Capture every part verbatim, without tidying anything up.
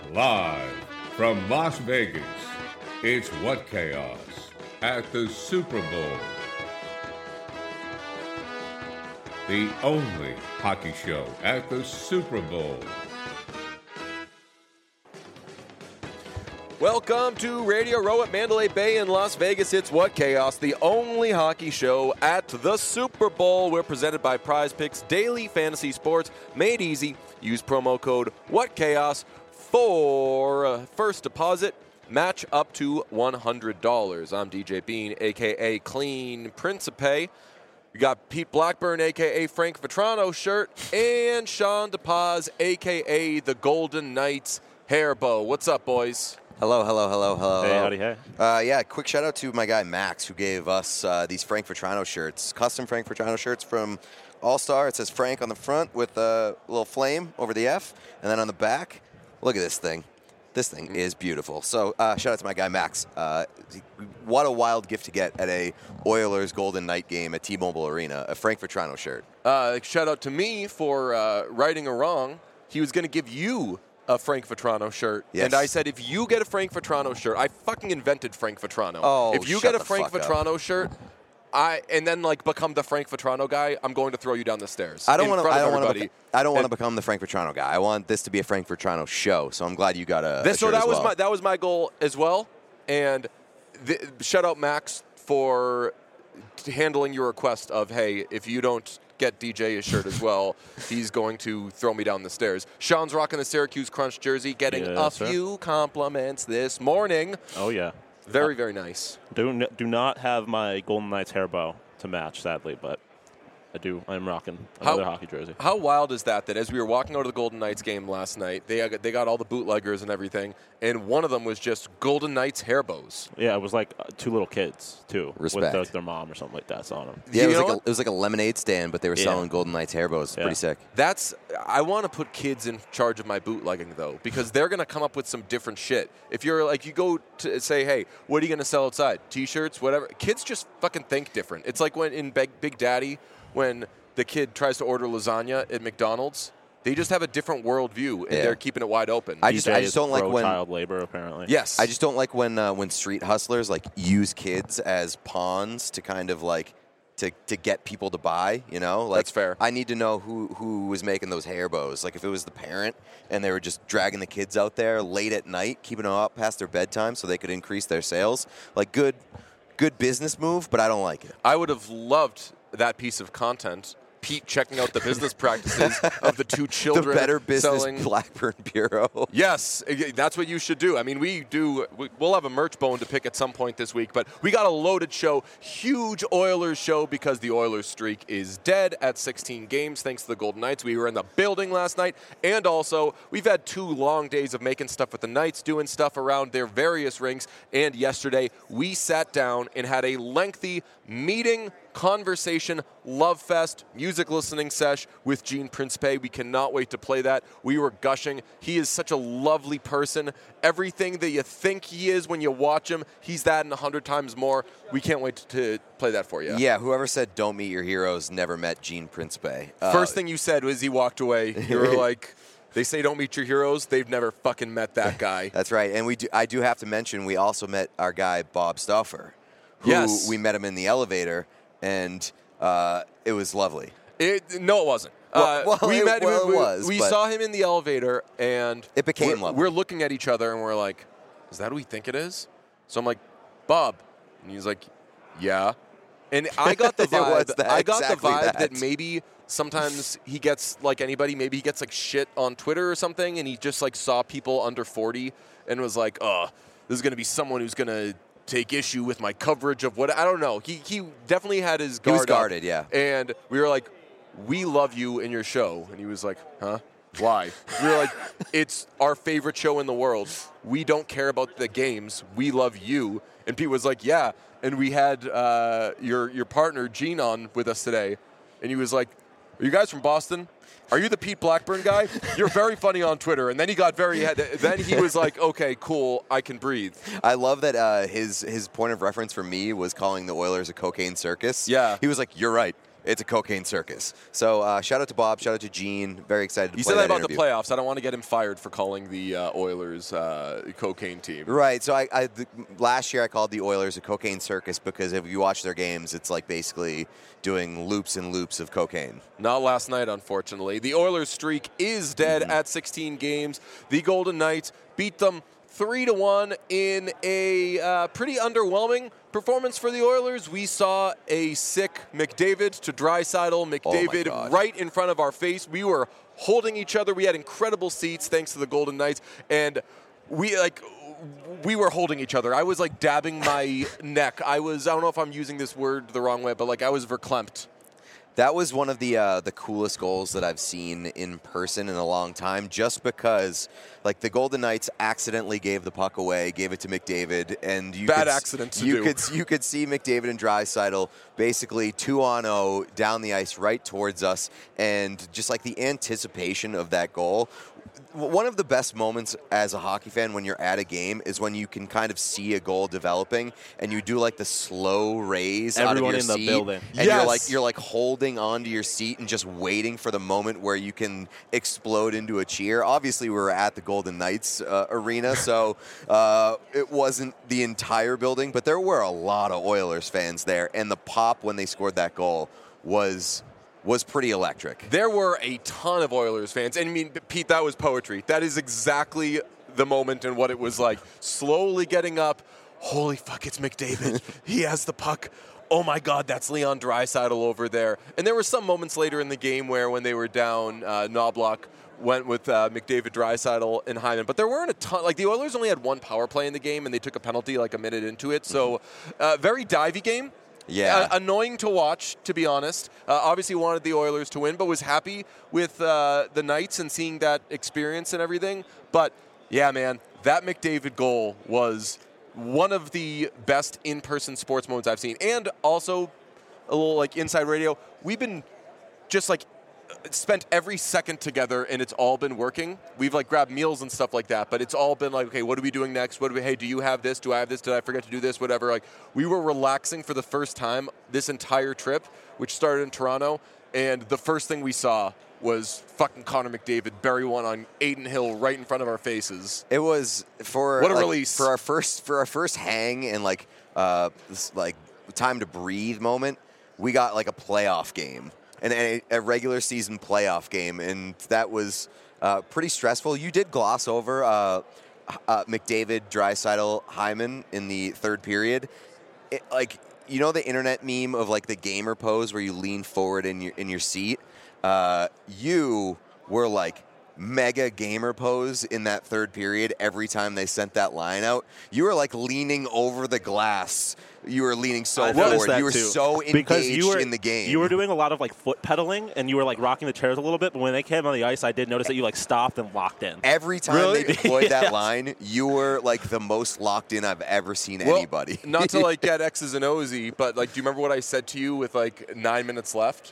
Live from Las Vegas, it's What Chaos at the Super Bowl. The only hockey show at the Super Bowl. Welcome to Radio Row at Mandalay Bay in Las Vegas. It's What Chaos, the only hockey show at the Super Bowl. We're presented by Prize Picks Daily Fantasy Sports. Made easy. Use promo code WhatChaos for uh, first deposit. Match up to one hundred dollars. I'm D J Bean, a k a. Clean Principe. We got Pete Blackburn, a k a. Frank Vetrano shirt, and Sean DePaz, a k a the Golden Knights hair bow. What's up, boys? Hello, hello, hello, hello. Hey, howdy, hey. Uh, yeah, quick shout out to my guy Max, who gave us uh, these Frank Vetrano shirts, custom Frank Vetrano shirts from All-Star. It says Frank on the front with a little flame over the F, and then on the back, look at this thing. This thing is beautiful. So uh, shout out to my guy Max. Uh, what a wild gift to get at a Oilers Golden Knight game at T-Mobile Arena, a Frank Vetrano shirt. Uh, shout out to me for uh, righting a wrong. He was going to give you a Frank Vetrano shirt. Yes. And I said, if you get a Frank Vetrano shirt, I fucking invented Frank Vetrano. Oh, if you shut get a the Frank fuck Vetrano up. shirt, I and then like become the Frank Vetrano guy, I'm going to throw you down the stairs. I don't want to. I don't want to. Beca- I don't want to And become the Frank Vetrano guy. I want this to be a Frank Vetrano show. So I'm glad you got a. This, a so shirt that as was well. my that was my goal as well. And th- shout out Max for handling your request of, hey, if you don't get D J a shirt as well, he's going to throw me down the stairs. Sean's rocking the Syracuse Crunch jersey, getting Yes, a sir. few compliments this morning. Oh, yeah. Very, very nice. Do, n- do not have my Golden Knights hair bow to match, sadly, but I do. I'm rocking another How- hockey jersey. How wild is that, that as we were walking out of the Golden Knights game last night, they got, they got all the bootleggers and everything, and one of them was just Golden Knights hair bows. Yeah, it was like uh, two little kids, too, Respect. with the, their mom or something like that on them. Yeah, it You was, know like a, what? it was like a lemonade stand, but they were Yeah. selling Golden Knights hair bows. Yeah. Pretty sick. That's I want to put kids in charge of my bootlegging though, because they're going to come up with some different shit. If you're like you go to say, hey, what are you going to sell outside? T-shirts, whatever. Kids just fucking think different. It's like when in Big, Big Daddy when the kid tries to order lasagna at McDonald's. They just have a different worldview and Yeah. they're keeping it wide open. I D just, J I is just don't like pro when. child labor, apparently. yes, I just don't like when uh, when street hustlers like use kids as pawns to kind of like to, to get people to buy. You know, like That's fair. I need to know who who was making those hair bows. Like if it was the parent and they were just dragging the kids out there late at night, keeping them up past their bedtime so they could increase their sales. Like good good business move, but I don't like it. I would have loved that piece of content. Pete checking out the business practices of the two The children Better Business selling. Blackburn Bureau. Yes, i- that's what you should do. I mean, we do. we- We'll have a merch bone to pick at some point this week, but we got a loaded show, huge Oilers show because the Oilers streak is dead at sixteen games thanks to the Golden Knights. We were in the building last night, and also we've had two long days of making stuff with the Knights, doing stuff around their various rinks, and yesterday we sat down and had a lengthy meeting, conversation, love fest, music listening sesh with Gene Principe. We cannot wait to play that. We were gushing. He is such a lovely person. Everything that you think he is when you watch him, he's that and a hundred times more. We can't wait to play that for you. Yeah, whoever said don't meet your heroes never met Gene Principe. Uh, First thing you said was he walked away. You were like, they say don't meet your heroes. They've never fucking met that guy. That's right. And we do, I do have to mention we also met our guy Bob Stauffer, who Yes. we met him in the elevator, and uh, it was lovely. It, no, it wasn't. Well- uh, well, we it- met. well, we, it was, we but- saw him in the elevator, and It became we're, lovely. we're looking at each other, and we're like, "Is that who we think it is?" So I'm like, "Bob," and he's like, "Yeah." And I got the It was vibe. that- I got exactly the vibe that. that. maybe sometimes he gets like anybody. Maybe he gets like shit on Twitter or something, and he just like saw people under forty and was like, "Oh, this is gonna be someone who's gonna." Take issue with my coverage of what I don't know. He he definitely had his He guard was up. guarded, yeah. And we were like, we love you in your show. And he was like, huh? Why? We were like, it's our favorite show in the world. We don't care about the games. We love you. And Pete was like, yeah. And we had uh, your your partner, Gene, on with us today. And he was like, are you guys from Boston? Are you the Pete Blackburn guy? You're very funny on Twitter. And then he got very, then he was like, okay, cool, I can breathe. I love that uh, his his point of reference for me was calling the Oilers a cocaine circus. Yeah. He was like, you're right. it's a cocaine circus. So uh, shout out to Bob, shout out to Gene. Very excited to You play said that, that about interview. the playoffs. I don't want to get him fired for calling the uh, Oilers uh, cocaine team. Right. So I, I the, last year I called the Oilers a cocaine circus because if you watch their games, it's like basically doing loops and loops of cocaine. Not last night, unfortunately. The Oilers streak is dead mm-hmm. at sixteen games. The Golden Knights beat them three to one in a uh, pretty underwhelming performance for the Oilers. We saw a sick McDavid to Draisaitl. McDavid oh right in front of our face. We were holding each other. We had incredible seats thanks to the Golden Knights, and we like we were holding each other. I was like dabbing my neck. I was I don't know if I'm using this word the wrong way, but like I was verklempt. That was one of the uh, the coolest goals that I've seen in person in a long time, just because, like, the Golden Knights accidentally gave the puck away, gave it to McDavid, and you bad could, accident to you do. could you could see McDavid and Draisaitl basically two on oh down the ice right towards us, and just like the anticipation of that goal. One of the best moments as a hockey fan when you're at a game is when you can kind of see a goal developing and you do like the slow raise Everyone out of your in the seat, building. and Yes. you're like you're like holding onto your seat and just waiting for the moment where you can explode into a cheer. Obviously, we were at the Golden Knights uh, arena, so uh, it wasn't the entire building, but there were a lot of Oilers fans there, and the pop when they scored that goal was. was pretty electric. There were a ton of Oilers fans. And I mean, Pete, that was poetry. That is exactly the moment and what it was like. Slowly getting up. Holy fuck, it's McDavid. He has the puck. Oh my God, that's Leon Draisaitl over there. And there were some moments later in the game where when they were down, uh, Knobloch went with uh, McDavid, Draisaitl, and Hyman. But there weren't a ton. Like, the Oilers only had one power play in the game, and they took a penalty like a minute into it. So, uh, very divey game. Yeah. Uh, annoying to watch, to be honest. Uh, obviously wanted the Oilers to win, but was happy with uh, the Knights and seeing that experience and everything. But, yeah, man, that McDavid goal was one of the best in-person sports moments I've seen. And also, a little, like, inside radio, we've been just, like, spent every second together, and it's all been working. We've like grabbed meals and stuff like that, but it's all been like, okay, what are we doing next? What do we? Hey, do you have this? Do I have this? Did I forget to do this? Whatever. Like, we were relaxing for the first time this entire trip, which started in Toronto, and the first thing we saw was fucking Connor McDavid bury one on Aiden Hill right in front of our faces. It was for what a like, release for our first for our first hang and like uh this, like time to breathe moment. We got like a playoff game. And a, a regular season playoff game, and that was uh, pretty stressful. You did gloss over uh, uh, McDavid, Draisaitl, Hyman in the third period. It, like, you know the internet meme of like the gamer pose where you lean forward in your in your seat? Uh, you were like mega gamer pose in that third period every time they sent that line out. You were like leaning over the glass. You were leaning so I noticed forward. that You were too. so engaged because you were, in the game. You were doing a lot of like foot pedaling, and you were like rocking the chairs a little bit. But when they came on the ice, I did notice that you like stopped and locked in. Every time Really? they deployed Yes. that line, you were like the most locked in I've ever seen Well, anybody. Not to like get X's and O's, but like, do you remember what I said to you with like nine minutes left?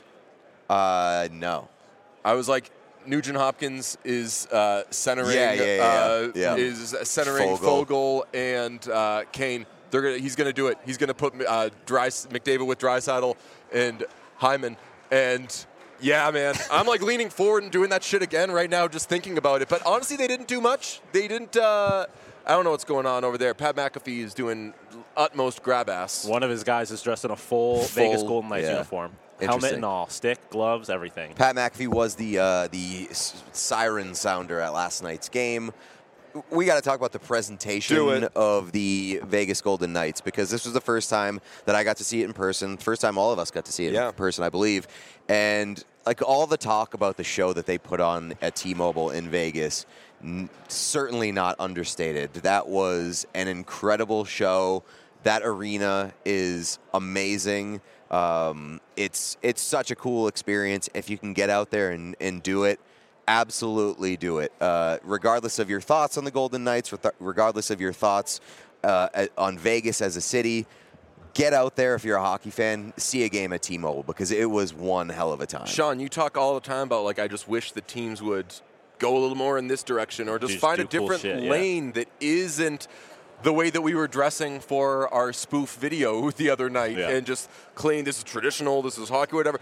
uh, no. I was like, Nugent Hopkins is uh, centering, Yeah, yeah, yeah, uh, yeah. is centering Fogle. Fogle and uh, Kane. They're gonna, he's going to do it. He's going to put uh, Dry, McDavid with Draisaitl and Hyman. And yeah, man, I'm like leaning forward and doing that shit again right now, just thinking about it. But honestly, they didn't do much. They didn't. Uh, I don't know what's going on over there. Pat McAfee is doing utmost grab ass. One of his guys is dressed in a full, Full, Vegas Golden Knights yeah. uniform, helmet Interesting. and all, stick, gloves, everything. Pat McAfee was the uh, the s- siren sounder at last night's game. We got to talk about the Do presentation it. of the Vegas Golden Knights, because this was the first time that I got to see it in person. First time all of us got to see it Yeah. in person, I believe. And like all the talk about the show that they put on at T-Mobile in Vegas, n- certainly not understated. That was an incredible show. That arena is amazing. Um, it's it's such a cool experience. If you can get out there and, and do it, absolutely do it. Uh, regardless of your thoughts on the Golden Knights, reth- regardless of your thoughts uh, at- on Vegas as a city, get out there if you're a hockey fan, see a game at T-Mobile, because it was one hell of a time. Sean, you talk all the time about like I just wish the teams would go a little more in this direction, or just, Just find a do cool different shit, yeah. lane that isn't the way that we were dressing for our spoof video the other night, Yeah. and just claim this is traditional, this is hockey, whatever.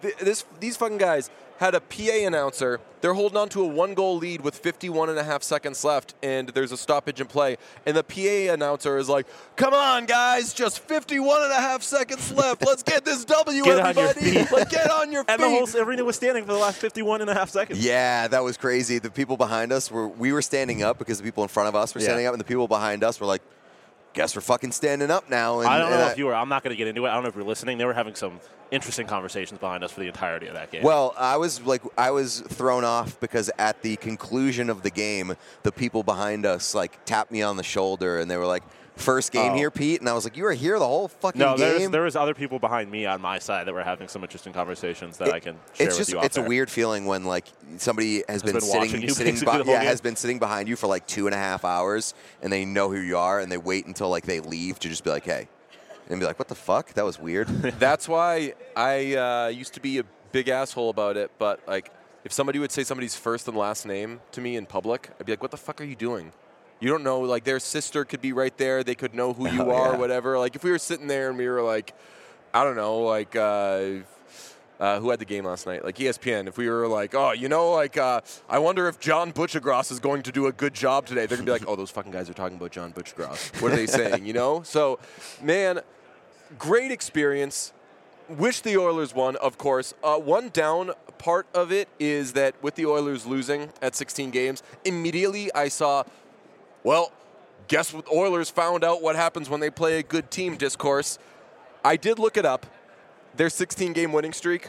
th- this these fucking guys had a P A announcer. They're holding on to a one-goal lead with fifty-one and a half seconds left, and there's a stoppage in play. And the P A announcer is like, come on, guys, just fifty-one and a half seconds left. Let's get this W, Get on your everybody. feet. Like, get on your feet. And the whole arena was standing for the last fifty-one and a half seconds. Yeah, that was crazy. The people behind us were we were standing up because the people in front of us were Yeah. standing up, and the people behind us were like, guess we're fucking standing up now. And, I don't know and if you were. I'm not going to get into it. I don't know if you're listening. They were having some interesting conversations behind us for the entirety of that game. Well, I was like, I was thrown off because at the conclusion of the game, the people behind us like tapped me on the shoulder and they were like, "First game Oh. here, Pete," and I was like, "You were here the whole fucking no, there's, game." there was other people behind me on my side that were having some interesting conversations that It- I can share it's with just you. off it's a air. weird feeling when like somebody has, been, been watching sitting you sitting basically be- the whole yeah game. has been sitting behind you for like two and a half hours and they know who you are and they wait until like they leave to just be like, "Hey," and be like, "What the fuck? That was weird." That's why I uh, used to be a big asshole about it, but like if somebody would say somebody's first and last name to me in public, I'd be like, "What the fuck are you doing? You don't know, like their sister could be right there. They could know who you Oh, are yeah. or whatever." Like if we were sitting there and we were like, I don't know, like uh, uh, who had the game last night? Like E S P N. If we were like, oh, you know, like uh, I wonder if John Butchergross is going to do a good job today. They're going to be like, oh, those fucking guys are talking about John Butchergross. What are they saying, you know? So, man, great experience. Wish the Oilers won, of course. Uh, one down part of it is that with the Oilers losing at sixteen games, immediately I saw, well, guess what? Oilers found out what happens when they play a good team discourse. I did look it up. Their sixteen-game winning streak,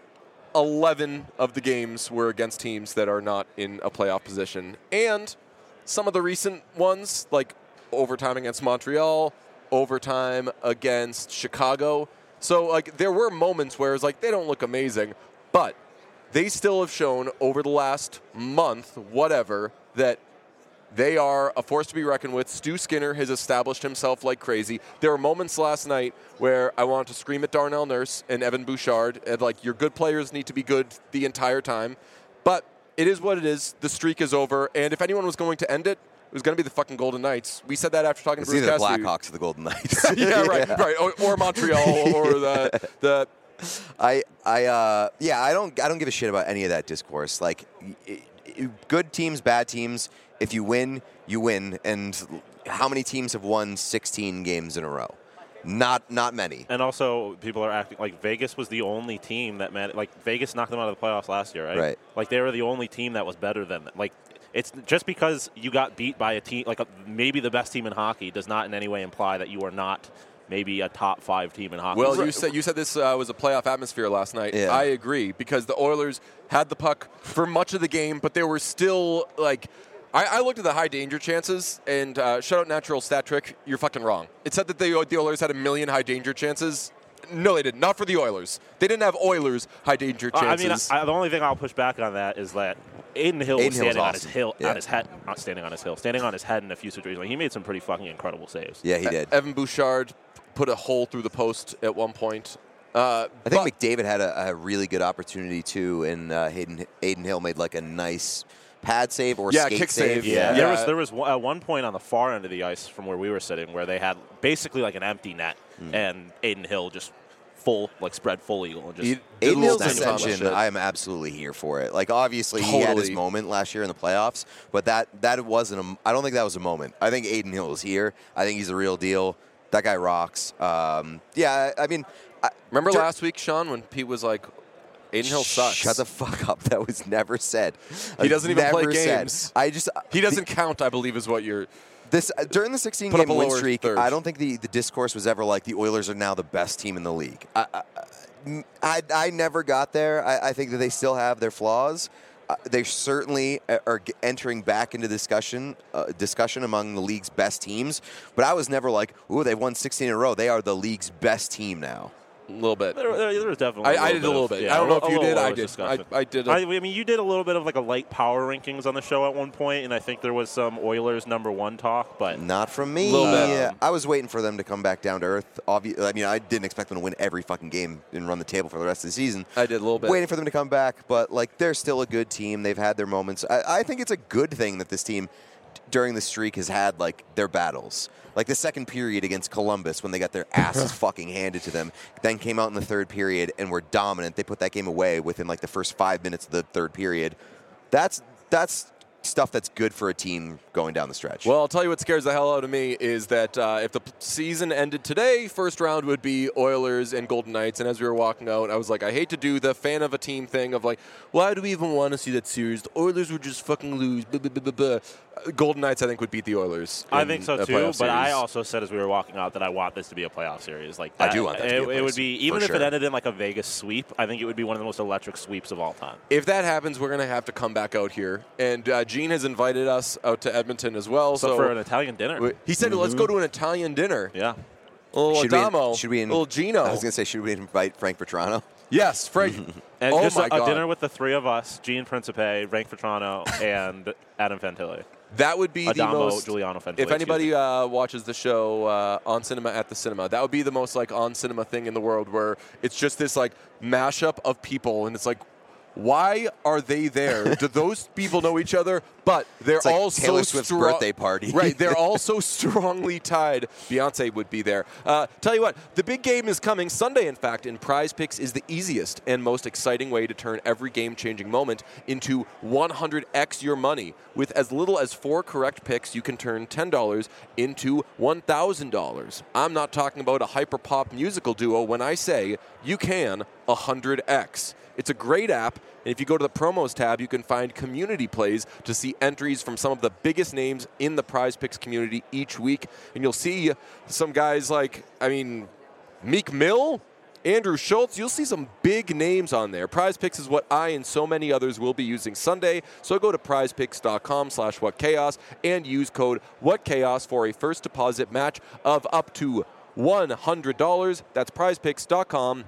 eleven of the games were against teams that are not in a playoff position. And some of the recent ones, like overtime against Montreal, overtime against Chicago. So, like, there were moments where it's like they don't look amazing, but they still have shown over the last month, whatever, that they are a force to be reckoned with. Stu Skinner has established himself like crazy. There were moments last night where I wanted to scream at Darnell Nurse and Evan Bouchard, and like, your good players need to be good the entire time. But it is what it is. The streak is over, and if anyone was going to end it, it was going to be the fucking Golden Knights. We said that after talking It's to Bruce either the Cassidy. Blackhawks or the Golden Knights. yeah, right, right, or, or Montreal, or the the. I I uh yeah I don't I don't give a shit about any of that discourse. Like, y- y- good teams, bad teams. If you win, you win. And how many teams have won sixteen games in a row? Not not many. And also, people are acting like Vegas was the only team that man. Like Vegas knocked them out of the playoffs last year, right? Right. Like they were the only team that was better than them. Like it's just because you got beat by a team, like a, maybe the best team in hockey, does not in any way imply that you are not maybe a top five team in hockey. Well, you said you said this uh, was a playoff atmosphere last night. Yeah. I agree, because the Oilers had the puck for much of the game, but they were still like. I, I looked at the high danger chances, and uh, shout out Natural Stat Trick. You're fucking wrong. It said that the, the Oilers had a million high danger chances. No, they didn't. Not for the Oilers. They didn't have Oilers high danger Uh, I chances. mean, I, the only thing I'll push back on that is that Aiden Hill Aiden was Hill's standing on his awesome. hill, Yeah. on his head, not standing on his hill, standing on his head in a few situations. Like, he made some pretty fucking incredible saves. Yeah, he did. Evan Bouchard put a hole through the post at one point. Uh, I think but- McDavid had a, a really good opportunity too, and uh, Hayden Aiden Hill made like a nice pad save or Yeah, skate kick save. Yeah, Yeah. there was there was one, at one point on the far end of the ice from where we were sitting where they had basically like an empty net, Hmm. and Aiden Hill just full like spread full eagle and just He- Aiden Little Hill's things on that ascension, shit. I am absolutely here for it. Like, obviously, he had his Totally. moment last year in the playoffs, but that that wasn't a. I don't think that was a moment. I think Aiden Hill is here. I think he's the real deal. That guy rocks. Um, yeah, I mean, I, Remember Jer- last week, Sean, when Pete was like, Aiden Hill sucks. Shut the fuck up. That was never said. He doesn't even play Never said. games. I just He doesn't count, I believe, is what you're. This uh, during the sixteen Put up game a win lower streak. third. I don't think the, the discourse was ever like the Oilers are now the best team in the league. I I, I, I never got there. I, I think that they still have their flaws. Uh, they certainly are g- entering back into discussion uh, discussion among the league's best teams. But I was never like, ooh, they've won sixteen in a row. They are the league's best team now. A little bit. There, there, there was definitely. I- I a did a little of- bit. yeah, I don't know a if you little did. I Oilers did. discussion. I- I did a- I, I mean, you did a little bit of like a light power rankings on the show at one point, and I think there was some Oilers number one talk. But Not from me. Little bit. Yeah, I was waiting for them to come back down to earth. Obvi- I mean, I didn't expect them to win every fucking game and run the table for the rest of the season. I did a little bit. Waiting for them to come back, but like they're still a good team. They've had their moments. I, I think it's a good thing that this team during the streak has had like their battles. Like the second period against Columbus when they got their asses fucking handed to them, then came out in the third period and were dominant. They put that game away within like the first five minutes of the third period. That's that's stuff that's good for a team going down the stretch. Well, I'll tell you what scares the hell out of me is that uh, if the p- season ended today, first round would be Oilers and Golden Knights. And as we were walking out, I was like, I hate to do the fan of a team thing of like, why do we even want to see that series? The Oilers would just fucking lose. Blah, blah, blah, blah, blah. Golden Knights, I think, would beat the Oilers. I think so a too. playoff But I series. also said as we were walking out that I want this to be a playoff series. Like I that, do want that to it, be a it would playoff be series, even for if it sure. ended in like a Vegas sweep. I think it would be one of the most electric sweeps of all time. If that happens, we're going to have to come back out here. And uh, Gene has invited us out to Edmonton as well. So, So, for an Italian dinner. we- he said, let's go to an Italian dinner. yeah. Little Should we- Adamo, should we in- little Gino. I was going to say, should we invite Frank Petrano? Yes, Frank. And oh just my a, God. a dinner with the three of us, Gene Principe, Frank Petrano, and Adam Fantilli. That would be the Adamo, most. Giuliano Fantilli. If anybody uh, watches the show uh, on Cinema at the Cinema, that would be the most like on cinema thing in the world, where it's just this like mashup of people, and it's like, why are they there? Do those people know each other? But they're It's like all Taylor so Swift's strong- birthday party. Right, they're all so strongly tied. Beyonce would be there. Uh, tell you what, the big game is coming Sunday, in fact, and Prize Picks is the easiest and most exciting way to turn every game-changing moment into one hundred x your money. With as little as four correct picks, you can turn ten dollars into one thousand dollars. I'm not talking about a hyper-pop musical duo when I say you can one hundred x. It's a great app, and if you go to the promos tab, you can find community plays to see entries from some of the biggest names in the Prize Picks community each week. And you'll see some guys like, I mean, Meek Mill, Andrew Schultz. You'll see some big names on there. Prize Picks is what I and so many others will be using Sunday. So go to prizepicks.com slash whatchaos and use code whatchaos for a first deposit match of up to one hundred dollars. That's prizepicks.com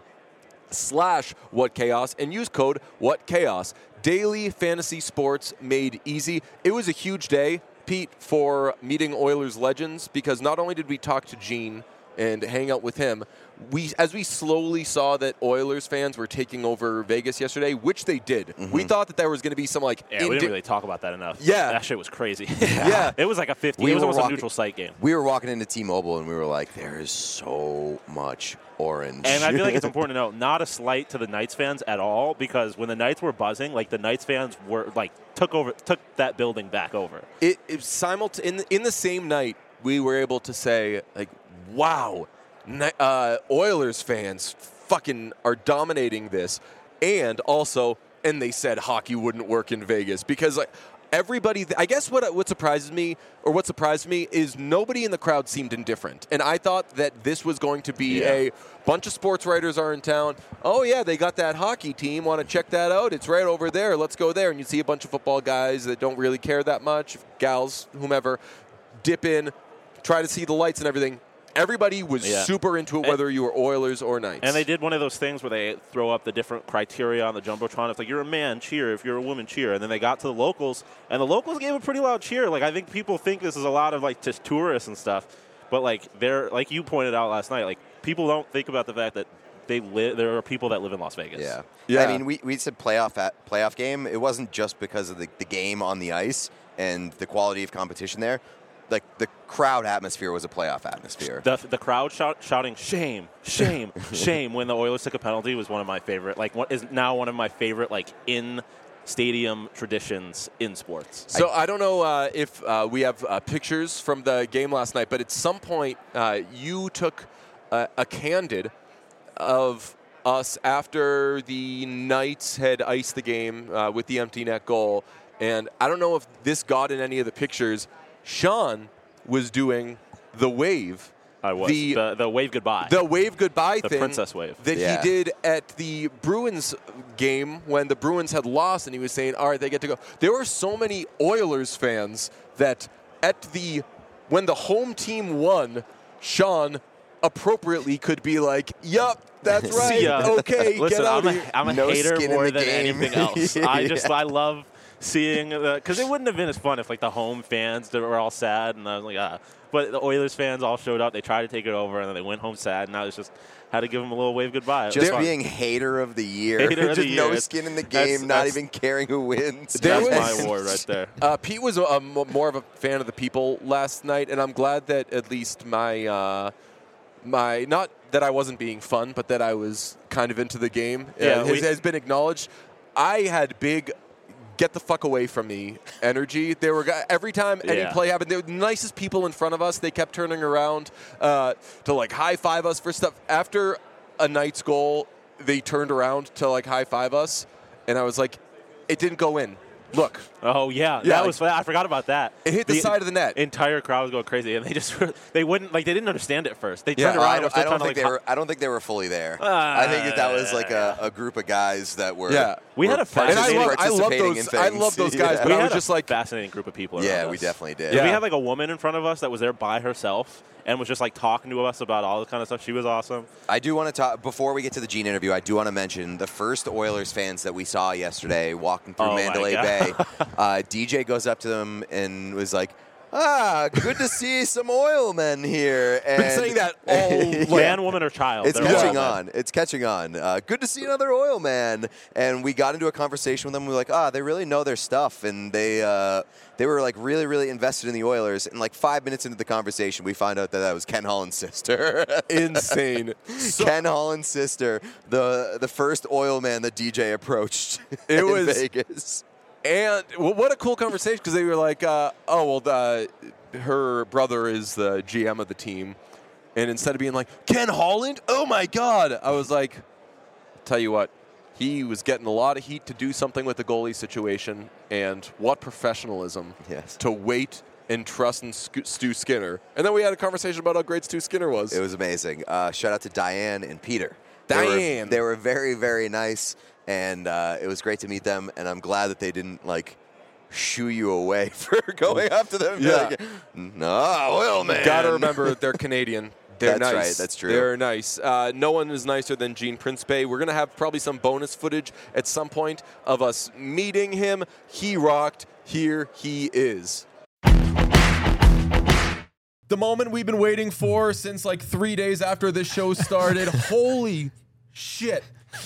slash whatchaos and use code whatchaos. Daily fantasy sports made easy. It was a huge day, Pete, for meeting Oilers legends, because not only did we talk to Gene and hang out with him, we as we slowly saw that Oilers fans were taking over Vegas yesterday, which they did. Mm-hmm. We thought that there was going to be some like Yeah, we indi- didn't really talk about that enough. Yeah. That shit was crazy. Yeah. It was like a fifty. We it was were almost walking- a neutral site game. We were walking into T-Mobile and we were like, there is so much orange. And I feel like it's important to note, not a slight to the Knights fans at all, because when the Knights were buzzing, like the Knights fans were like took over, took that building back over. It, it simult- in, in the same night, we were able to say, like, wow, Ni- uh, Oilers fans fucking are dominating this. And also, and they said hockey wouldn't work in Vegas because, like, everybody, I guess what what surprises me, or what surprised me, is nobody in the crowd seemed indifferent. And I thought that this was going to be Yeah. a bunch of sports writers are in town. Oh, yeah, they got that hockey team. Want to check that out? It's right over there. Let's go there. And you see a bunch of football guys that don't really care that much, gals, whomever, dip in, try to see the lights and everything. Everybody was Yeah. super into it, And- whether you were Oilers or Knights. And they did one of those things where they throw up the different criteria on the Jumbotron. It's like, you're a man, cheer. If you're a woman, cheer. And then they got to the locals, and the locals gave a pretty loud cheer. Like, I think people think this is a lot of, like, just tourists and stuff. But, like, they're, like you pointed out last night, like, people don't think about the fact that they live. There are people that live in Las Vegas. Yeah. Yeah. I mean, we, we said playoff at, playoff game. It wasn't just because of the, the game on the ice and the quality of competition there. Like, the crowd atmosphere was a playoff atmosphere. The, the crowd shout, shouting shame, shame, shame when the Oilers took a penalty was one of my favorite. Like, what is now one of my favorite, like, in stadium traditions in sports. So I, I don't know uh, if uh, we have uh, pictures from the game last night, but at some point uh, you took uh, a candid of us after the Knights had iced the game uh, with the empty net goal. And I don't know if this got in any of the pictures. Sean was doing the wave. I was The- the, the wave goodbye. The wave goodbye The thing princess wave. that Yeah. he did at the Bruins game when the Bruins had lost, and he was saying, all right, they get to go. There were so many Oilers fans that at the when the home team won, Sean appropriately could be like, yup, that's right. See ya. Okay, Listen, get out I'm of a, here. I'm a No hater skin in more the than game. anything else. I just Yeah. I love seeing the because it wouldn't have been as fun if like the home fans that were all sad and I was like ah. But the Oilers fans all showed up. They tried to take it over and then they went home sad. And I was just had to give them a little wave goodbye. Just being hater of the year, Hater of just the no year. skin in the That's- game, not that's- even caring who wins. There That's was- my award right there. Uh, Pete was a, a mo- more of a fan of the people last night, and I'm glad that at least my uh, my not that I wasn't being fun, but that I was kind of into the game uh, Yeah, has, we- has been acknowledged. I had big. Get the fuck away from me energy. There were guys, every time any Yeah. play happened, they were the nicest people in front of us. They kept turning around uh, to like high five us for stuff. After a Knights goal, they turned around to like high five us, and I was like, it didn't go in. Look, Oh yeah, Yeah, that was. I forgot about that. it hit the, side of the net. Entire crowd was going crazy, and they just they wouldn't like they didn't understand it first. They Yeah, turned Well, around. I and were don't, still I don't trying think to, they like, were. I don't think they were fully there. I think that that was like a, a group of guys that were. Yeah. We were had a and I fascinating- love, I love participating those. in I things. love those guys, Yeah. but we I had was a just like, fascinating group of people. Yeah, around we us. definitely did. Yeah. We had like a woman in front of us that was there by herself and was just like talking to us about all this kind of stuff. She was awesome. I do want to talk before we get to the Gene interview. I do want to mention the first Oilers fans that we saw yesterday walking through Oh, my Mandalay God. Bay. Uh, D J goes up to them and was like, "Ah, good to see some oil men here." And been saying that all Man, woman, or child. It's they're all catching men. on. It's catching on. Uh, good to see another oil man. And we got into a conversation with them. We were like, ah, they really know their stuff, and they uh, they were like really, really invested in the Oilers. And like five minutes into the conversation, we found out that that was Ken Holland's sister. insane. So- Ken Holland's sister, the the first oil man that D J approached It in was- Vegas. And well, what a cool conversation because they were like, uh, "Oh well, the, her brother is the G M of the team," and instead of being like Ken Holland, oh my God, I was like, "Tell you what, he was getting a lot of heat to do something with the goalie situation, and what professionalism Yes. to wait and trust in Sc- Stu Skinner." And then we had a conversation about how great Stu Skinner was. It was amazing. Uh, shout out to Diane and Peter. They were- Diane. They were, very, very nice, and uh, it was great to meet them. And I'm glad that they didn't like shoo you away for going up to them. and be Yeah. like, no, oil man. Got to remember, they're Canadian. They're That's nice. right, that's true. They're nice. Uh, no one is nicer than Gene Principe. We're going to have probably some bonus footage at some point of us meeting him. He rocked. Here he is. The moment we've been waiting for since like three days after this show started. Holy shit.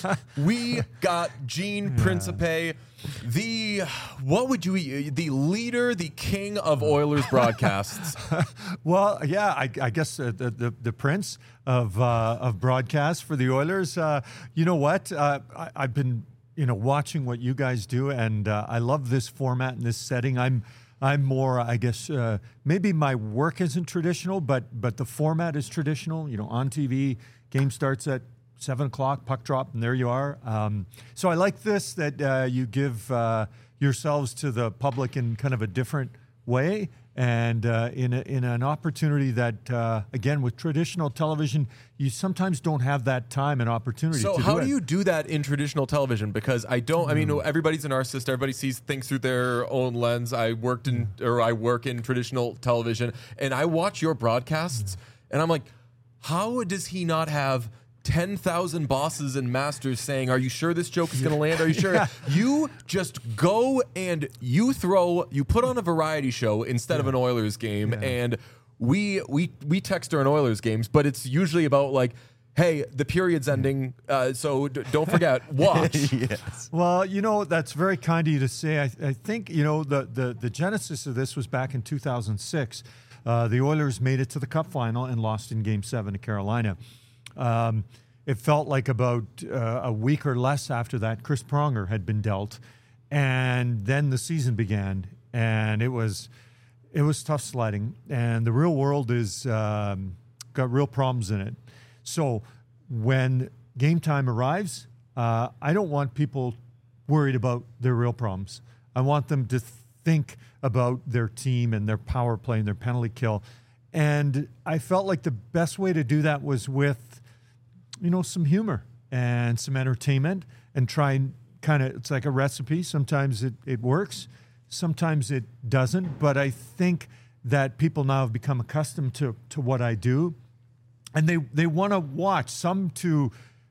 We got Gene Principe, the, what would you, the leader, the king of Oilers broadcasts. Well, yeah, I, I guess uh, the, the the prince of uh, of broadcast for the Oilers. Uh, you know what? Uh, I, I've been you know watching what you guys do, and uh, I love this format and this setting. I'm I'm more, I guess, uh, maybe my work isn't traditional, but but the format is traditional. You know, on T V, game starts at seven o'clock, puck drop, and there you are. Um, so I like this that uh, you give uh, yourselves to the public in kind of a different way, and uh, in a, in an opportunity that, uh, again, with traditional television, you sometimes don't have that time and opportunity. So to how do, do it. you do that in traditional television? Because I don't. I mean, everybody's a narcissist. Everybody sees things through their own lens. I worked in, or I work in traditional television, and I watch your broadcasts, and I'm like, how does he not have ten thousand bosses and masters saying, "Are you sure this joke is going to land? Are you sure?" Yeah. You just go and you throw. You put on a variety show instead of an Oilers game, and we we we text during Oilers games, but it's usually about like, hey, the period's ending, uh, so d- don't forget, watch. Yes. Well, you know, that's very kind of you to say. I, I think, you know, the, the, the genesis of this was back in two thousand six. Uh, the Oilers made it to the Cup final and lost in Game seven to Carolina. Um, it felt like about uh, a week or less after that, Chris Pronger had been dealt, and then the season began, and it was it was tough sledding, and the real world is um, got real problems in it. So when game time arrives, uh, I don't want people worried about their real problems. I want them to think about their team and their power play and their penalty kill. And I felt like the best way to do that was with, you know, some humor and some entertainment, and try and kind of, it's like a recipe. Sometimes it, it works, sometimes it doesn't. But I think that people now have become accustomed to, to what I do. And they, they want to watch, some to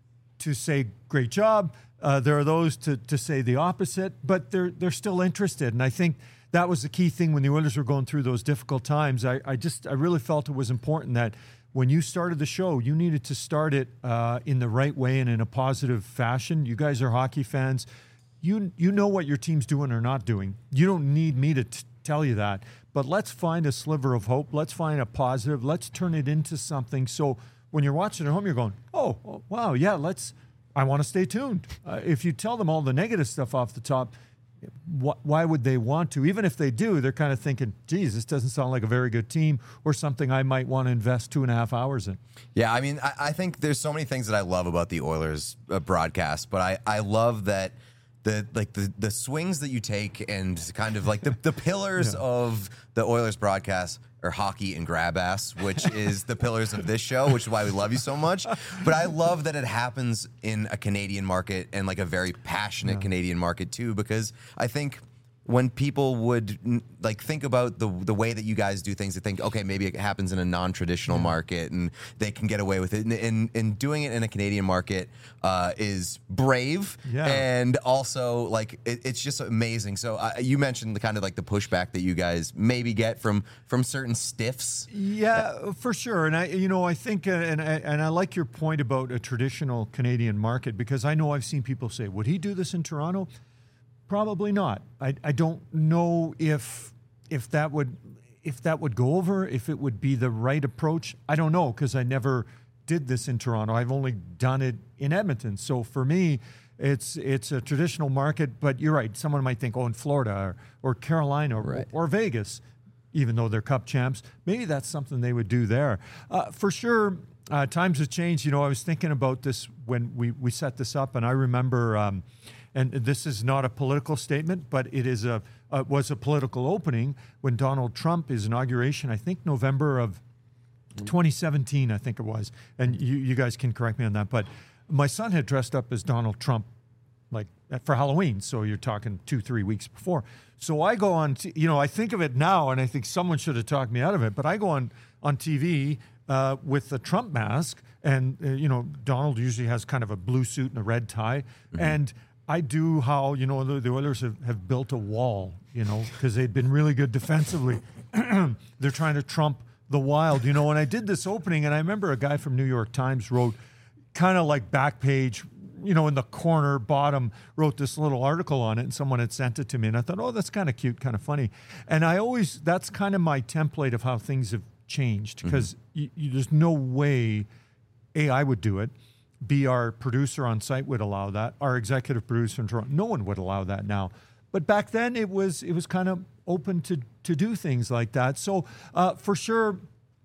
to say great job. Uh, there are those to to say the opposite, but they're they're still interested. And I think that was the key thing when the Oilers were going through those difficult times. I, I just I really felt it was important that when you started the show, you needed to start it uh, in the right way and in a positive fashion. You guys are hockey fans. You you know what your team's doing or not doing. You don't need me to t- tell you that. But let's find a sliver of hope. Let's find a positive. Let's turn it into something. So when you're watching at home, you're going, oh, oh wow, yeah, let's, I want to stay tuned. Uh, if you tell them all the negative stuff off the top, wh- why would they want to? Even if they do, they're kind of thinking, geez, this doesn't sound like a very good team or something I might want to invest two and a half hours in. Yeah, I mean, I, I think there's so many things that I love about the Oilers uh, broadcast, but I, I love that the like the, the swings that you take and kind of like the, the pillars yeah. of the Oilers broadcast are hockey and grab ass, which is the pillars of this show, which is why we love you so much. But I love that it happens in a Canadian market and like a very passionate yeah. Canadian market too, because I think when people would like think about the the way that you guys do things, they think, okay, maybe it happens in a non-traditional yeah. market and they can get away with it. And, and, and doing it in a Canadian market uh, is brave yeah. and also like it, it's just amazing. So uh, you mentioned the kind of like the pushback that you guys maybe get from from certain stiffs. Yeah, for sure. And I, you know, I think, uh, and I, and I like your point about a traditional Canadian market, because I know I've seen people say, would he do this in Toronto? Probably not. I, I don't know if if that would if that would go over, if it would be the right approach. I don't know, because I never did this in Toronto. I've only done it in Edmonton. So for me, it's it's a traditional market. But you're right. Someone might think, oh, in Florida or, or Carolina right. or, or Vegas, even though they're Cup champs, maybe that's something they would do there. Uh, for sure, uh, times have changed. You know, I was thinking about this when we, we set this up, and I remember. Um, And this is not a political statement, but it is a uh, was a political opening when Donald Trump, his inauguration, I think November of twenty seventeen, I think it was. And you, you guys can correct me on that. But my son had dressed up as Donald Trump, like for Halloween. So you're talking two, three weeks before. So I go on, t- you know, I think of it now, and I think someone should have talked me out of it. But I go on on T V uh, with the Trump mask, and uh, you know, Donald usually has kind of a blue suit and a red tie, mm-hmm. and I do how, you know, the, the Oilers have, have built a wall, you know, because they'd been really good defensively. They're trying to trump the Wild, you know, and I did this opening, and I remember a guy from New York Times wrote kind of like back page, you know, in the corner bottom, wrote this little article on it, and someone had sent it to me, and I thought, oh, that's kind of cute, kind of funny. And I always, that's kind of my template of how things have changed, because mm-hmm. there's no way, A, I would do it, B, our producer on site would allow that. Our executive producer in Toronto, no one would allow that now. But back then, it was it was kind of open to to do things like that. So uh, for sure,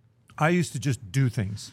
I used to just do things,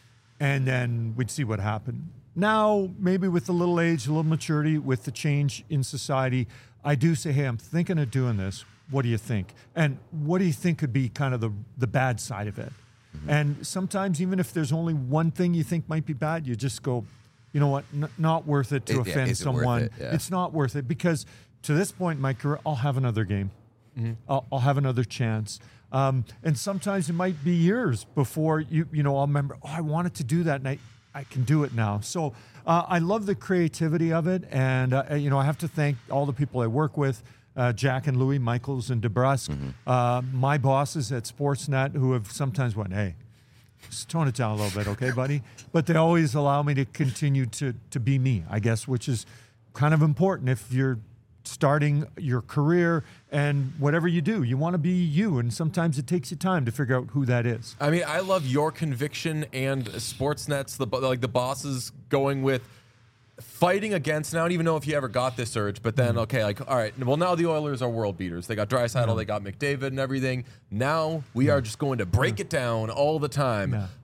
and then we'd see what happened. Now, maybe with a little age, a little maturity, with the change in society, I do say, hey, I'm thinking of doing this. What do you think? And what do you think could be kind of the the bad side of it? Mm-hmm. And sometimes, even if there's only one thing you think might be bad, you just go, you know what, N- not worth it to it, offend yeah, someone. It? Yeah. It's not worth it, because to this point in my career, I'll have another game. Mm-hmm. I'll, I'll have another chance. Um, and sometimes it might be years before you, you know, I'll remember, oh, I wanted to do that, and I, I can do it now. So uh, I love the creativity of it. And, uh, you know, I have to thank all the people I work with. Uh, Jack and Louis, Michaels and DeBrusque, mm-hmm. uh, my bosses at Sportsnet, who have sometimes went, hey, just tone it down a little bit, okay, buddy? But they always allow me to continue to to be me, I guess, which is kind of important if you're starting your career and whatever you do, you want to be you, and sometimes it takes you time to figure out who that is. I mean, I love your conviction and Sportsnet's, the like the bosses going with fighting against, and I don't even know if you ever got this urge, but then, okay, like, all right, well, now the Oilers are world beaters. They got Draisaitl, yeah. they got McDavid and everything. Now we yeah. are just going to break yeah. it down all the time. Yeah.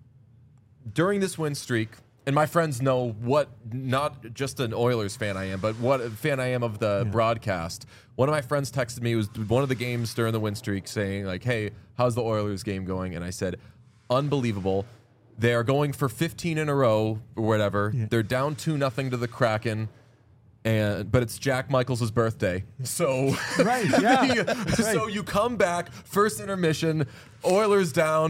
During this win streak, and my friends know what, not just an Oilers fan I am, but what fan I am of the yeah. broadcast. One of my friends texted me, it was one of the games during the win streak, saying, like, hey, how's the Oilers game going? And I said, unbelievable. They are going for fifteen in a row or whatever. Yeah. They're down two nothing to the Kraken, and but it's Jack Michaels' birthday. So right, yeah. so right. you come back, first intermission, Oilers down,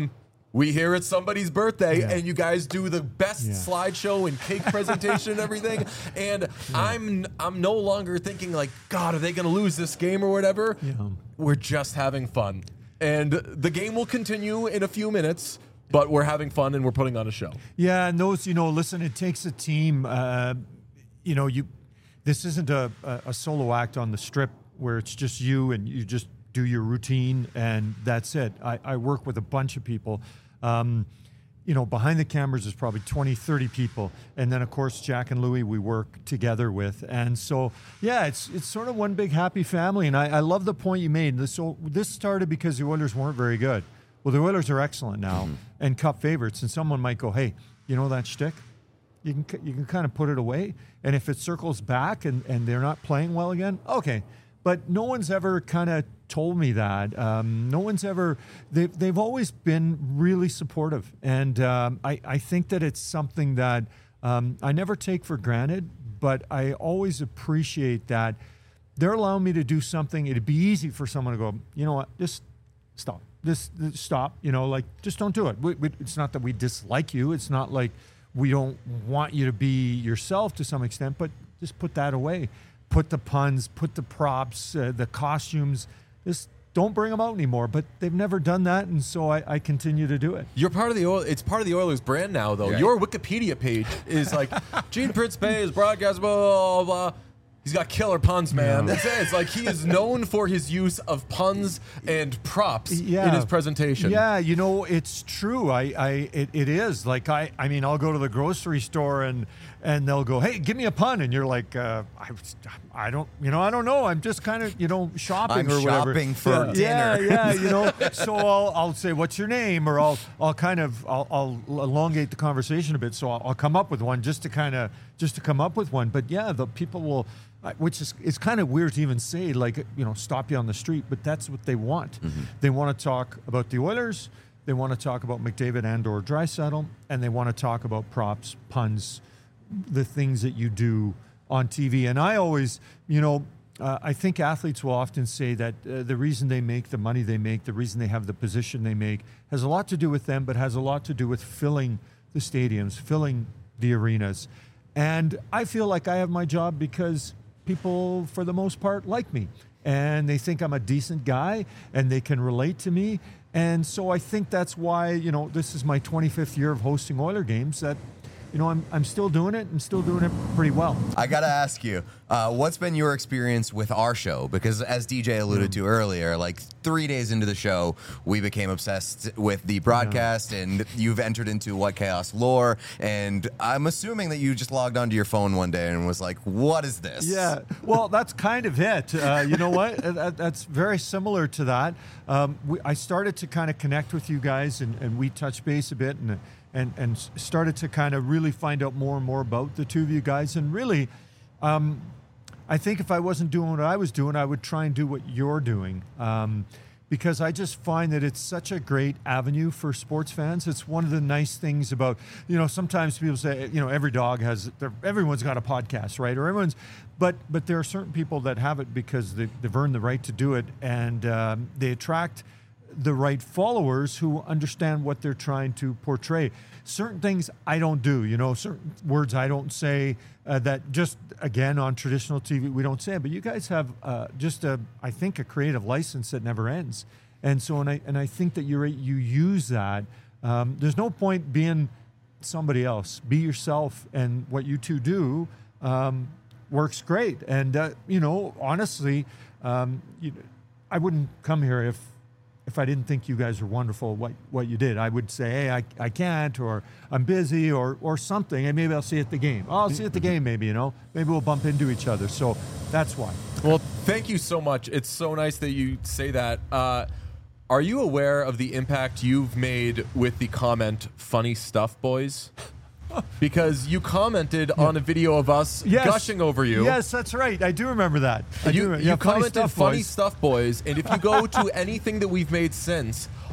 we hear it's somebody's birthday, Yeah. and you guys do the best Yeah. slideshow and cake presentation and everything. And yeah. I'm I'm no longer thinking like, God, are they going to lose this game or whatever? Yeah. We're just having fun, and the game will continue in a few minutes. But we're having fun and we're putting on a show. Yeah, and those, you know, listen, it takes a team. Uh, you know, you. This isn't a, a, a solo act on the strip where it's just you and you just do your routine and that's it. I, I work with a bunch of people. Um, you know, behind the cameras is probably twenty, thirty people. And then, of course, Jack and Louie we work together with. And so, yeah, it's it's sort of one big happy family. And I, I love the point you made. This, so this started because the Oilers weren't very good. Well, the Oilers are excellent now mm-hmm. and cup favorites. And someone might go, hey, you know that shtick? You can you can kind of put it away. And if it circles back and, and they're not playing well again, okay. But no one's ever kind of told me that. Um, no one's ever, they've, they've always been really supportive. And um, I, I think that it's something that um, I never take for granted, but I always appreciate that they're allowing me to do something. It'd be easy for someone to go, you know what, just stop. This, this stop, you know, like, just don't do it. We, we, it's not that we dislike you. It's not like we don't want you to be yourself to some extent, but just put that away. Put the puns, put the props, uh, the costumes. Just don't bring them out anymore. But they've never done that, and so I, I continue to do it. You're part of the Oil. It's part of the Oilers brand now, though. Right. Your Wikipedia page is like Gene Prince-Bay is broadcast, blah, blah, blah. He's got killer puns, man. Yeah. That's it. It's like he is known for his use of puns and props Yeah. in his presentation. Yeah, you know, it's true. I, I it, it is. Like, I, I mean, I'll go to the grocery store and and they'll go, hey, give me a pun. And you're like, uh, I, I don't, you know, I don't know. I'm just kind of, you know, shopping I'm or whatever. shopping for yeah. dinner. Yeah, yeah, you know. So I'll, I'll say, what's your name? Or I'll, I'll kind of, I'll, I'll elongate the conversation a bit. So I'll, I'll come up with one just to kind of, just to come up with one. But yeah, the people will, Uh, which is it's kind of weird to even say, like, you know, stop you on the street, but that's what they want. Mm-hmm. They want to talk about the Oilers, they want to talk about McDavid and or Draisaitl, and they want to talk about props, puns, the things that you do on T V. And I always, you know, uh, I think athletes will often say that uh, the reason they make the money they make, the reason they have the position they make, has a lot to do with them, but has a lot to do with filling the stadiums, filling the arenas. And I feel like I have my job because people, for the most part, like me. And they think I'm a decent guy and they can relate to me. And so I think that's why, you know, this is my twenty-fifth year of hosting Oiler games, that, you know, I'm, I'm still doing it and still doing it pretty well. I got to ask you, uh, what's been your experience with our show? Because as D J alluded mm. to earlier, like three days into the show, we became obsessed with the broadcast, yeah. and you've entered into What Chaos lore. And I'm assuming that you just logged onto your phone one day and was like, what is this? Yeah, well, that's kind of it. Uh, you know what? that, that's very similar to that. Um, we, I started to kind of connect with you guys, and, and we touched base a bit, and and and started to kind of really find out more and more about the two of you guys. And really, um, I think if I wasn't doing what I was doing, I would try and do what you're doing. Um, because I just find that it's such a great avenue for sports fans. It's one of the nice things about, you know, sometimes people say, you know, every dog has, everyone's got a podcast, right? Or everyone's, but but there are certain people that have it because they, they've earned the right to do it, and um, they attract the right followers who understand what they're trying to portray. Certain things I don't do, you know, certain words I don't say uh, that just, again, on traditional T V, we don't say. But you guys have uh, just, a, I think, a creative license that never ends. And so, and I, and I think that you're, you use that. Um, there's no point being somebody else. Be yourself, and what you two do um, works great. And, uh, you know, honestly, um, you, I wouldn't come here if, if I didn't think you guys were wonderful, what what you did. I would say, hey, I, I can't, or I'm busy, or or something, and maybe I'll see you at the game. Oh, I'll see you at the game, maybe, you know. Maybe we'll bump into each other. So that's why. Well, thank you so much. It's so nice that you say that. Uh, are you aware of the impact you've made with the comment, funny stuff, boys? Because you commented yeah. on a video of us yes. gushing over you. Yes, that's right. I do remember that. I you do, you yeah, commented funny stuff, funny boys. stuff, boys. And if you go to anything that we've made since,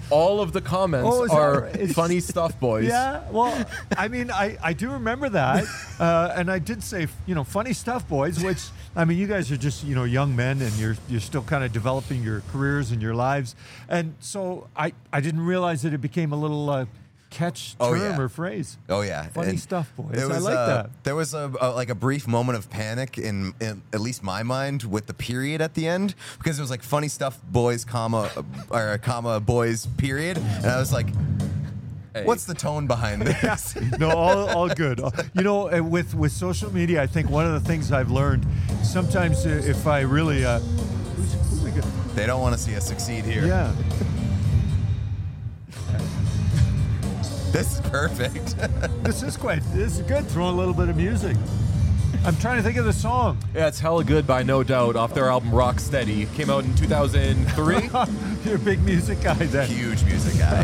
all of the comments Oh, is that are right? It's- funny stuff, boys. Yeah, well, I mean, I, I do remember that, uh, and I did say, you know, funny stuff, boys. Which, I mean, you guys are just, you know, young men, and you're you're still kind of developing your careers and your lives, and so I I didn't realize that it became a little uh, catch Oh, term yeah. or phrase. Oh yeah, Funny And stuff, boys. it I was, like uh, that. There was a, a like a brief moment of panic in, in at least my mind with the period at the end, because it was like funny stuff, boys, comma, uh, or comma, boys, period, and I was like, what's the tone behind this? No, all, all good. You know, uh, with with social media, I think one of the things I've learned, sometimes uh, if I really, uh, who's, who's we got? They don't want to see us succeed here. Yeah. This is perfect. This is quite, this is good. Throw a little bit of music. I'm trying to think of the song. Yeah, it's hella good by No Doubt off their album Rock Steady. Came out in two thousand three. You're a big music guy then. Huge music guy.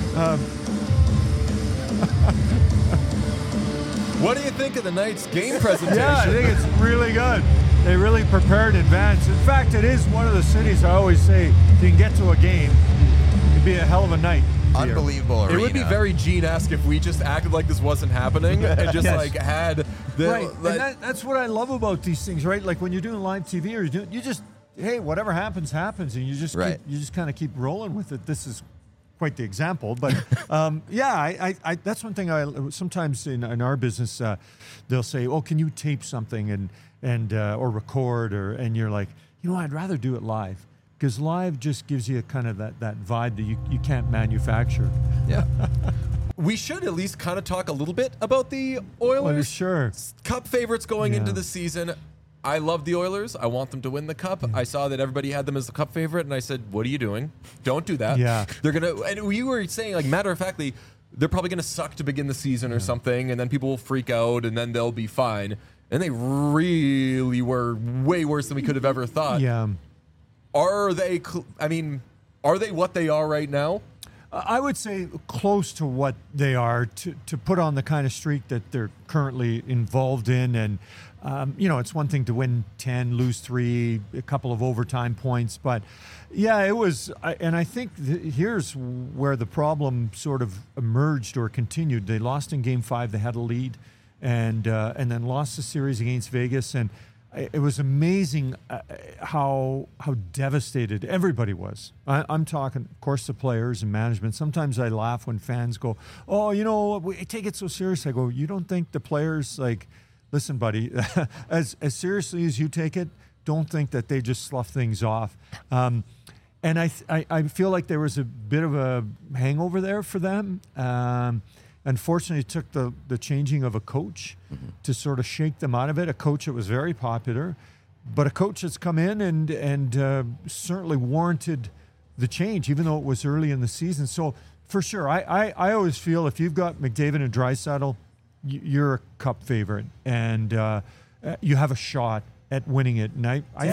What do you think of the night's game presentation? Yeah, I think it's really good. They really prepared in advance. In fact, it is one of the cities I always say, if you can get to a game, it'd be a hell of a night. here. Unbelievable It arena. would be very Gene-esque if we just acted like this wasn't happening and just Yes. like had the Right, like- and that, that's what I love about these things, right? Like when you're doing live T V, or you're doing, you just, hey, whatever happens, happens, and you just Right. keep, you just kind of keep rolling with it. This is quite the example, but um, yeah, I, I, I, that's one thing. I sometimes in, in our business, uh, they'll say, "Oh, can you tape something and and uh, or record?" Or and you're like, you know, I'd rather do it live. Because live just gives you kind of that, that vibe that you, you can't manufacture. Yeah. we should at least kind of talk a little bit about the Well, Oilers. sure. Cup favorites going Yeah. into the season. I love the Oilers. I want them to win the cup. I saw that everybody had them as the cup favorite, and I said, "What are you doing? Don't do that." Yeah. They're gonna. And we were saying, like, matter of factly, they're probably gonna suck to begin the season or something, and then people will freak out, and then they'll be fine. And they really were way worse than we could have ever thought. Yeah. Are they? Cl- I mean, are they what they are right now? I would say close to what they are to, to put on the kind of streak that they're currently involved in. And, um, you know, it's one thing to win ten, lose three, a couple of overtime points. But, yeah, it was. I- And I think th- here's where the problem sort of emerged or continued. They lost in game five. They had a lead and, uh, and then lost the series against Vegas. And I- it was amazing uh, how how devastated everybody was. I, I'm talking, of course, the players and management. Sometimes I laugh when fans go, "Oh, you know, we take it so serious." I go, "You don't think the players like, listen, buddy, as as seriously as you take it, don't think that they just slough things off." Um, and I, th- I I feel like there was a bit of a hangover there for them. Um, Unfortunately, it took the, the changing of a coach mm-hmm. to sort of shake them out of it. A coach that was very popular, but a coach that's come in and and uh, certainly warranted the change, even though it was early in the season. So for sure, I, I, I always feel if you've got McDavid and Draisaitl, you're a cup favorite, and uh, you have a shot at winning it. And I, I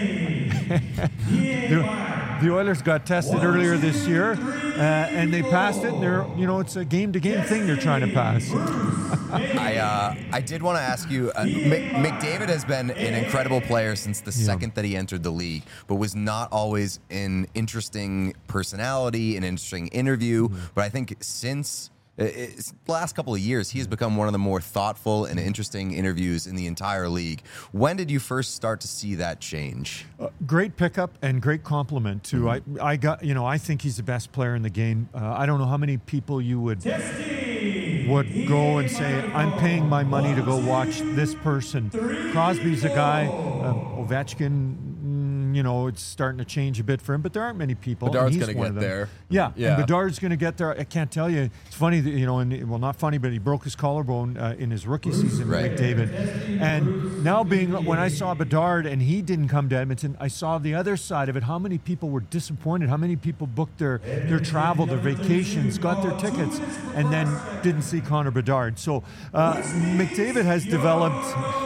the, the Oilers got tested earlier this year, uh, and they passed it. And they're, you know, it's a game-to-game thing they're trying to pass. I uh, I did want to ask you. Uh, Mc, McDavid has been an incredible player since the Yeah. second that he entered the league, but was not always an interesting personality, an interesting interview. Mm-hmm. But I think since it's the last couple of years, he has become one of the more thoughtful and interesting interviews in the entire league. When did you first start to see that change? Uh, great pickup and great compliment too. Mm-hmm. I, I got, you know, I think he's the best player in the game. Uh, I don't know how many people you would would go and say, "I'm paying my money to go watch this person." Crosby's a guy. Um, Ovechkin, mm, you know, it's starting to change a bit for him, but there aren't many people. and Bedard's he's gonna one get of them. there. Yeah, Yeah. and Bedard's going to get there. I can't tell you. It's funny that, you know, and well, not funny, but he broke his collarbone uh, in his rookie season, Right. McDavid. And now being, when I saw Bedard and he didn't come to Edmonton, I saw the other side of it. How many people were disappointed? How many people booked their, their travel, their vacations, got their tickets, and then didn't see Connor Bedard? So uh, McDavid has developed.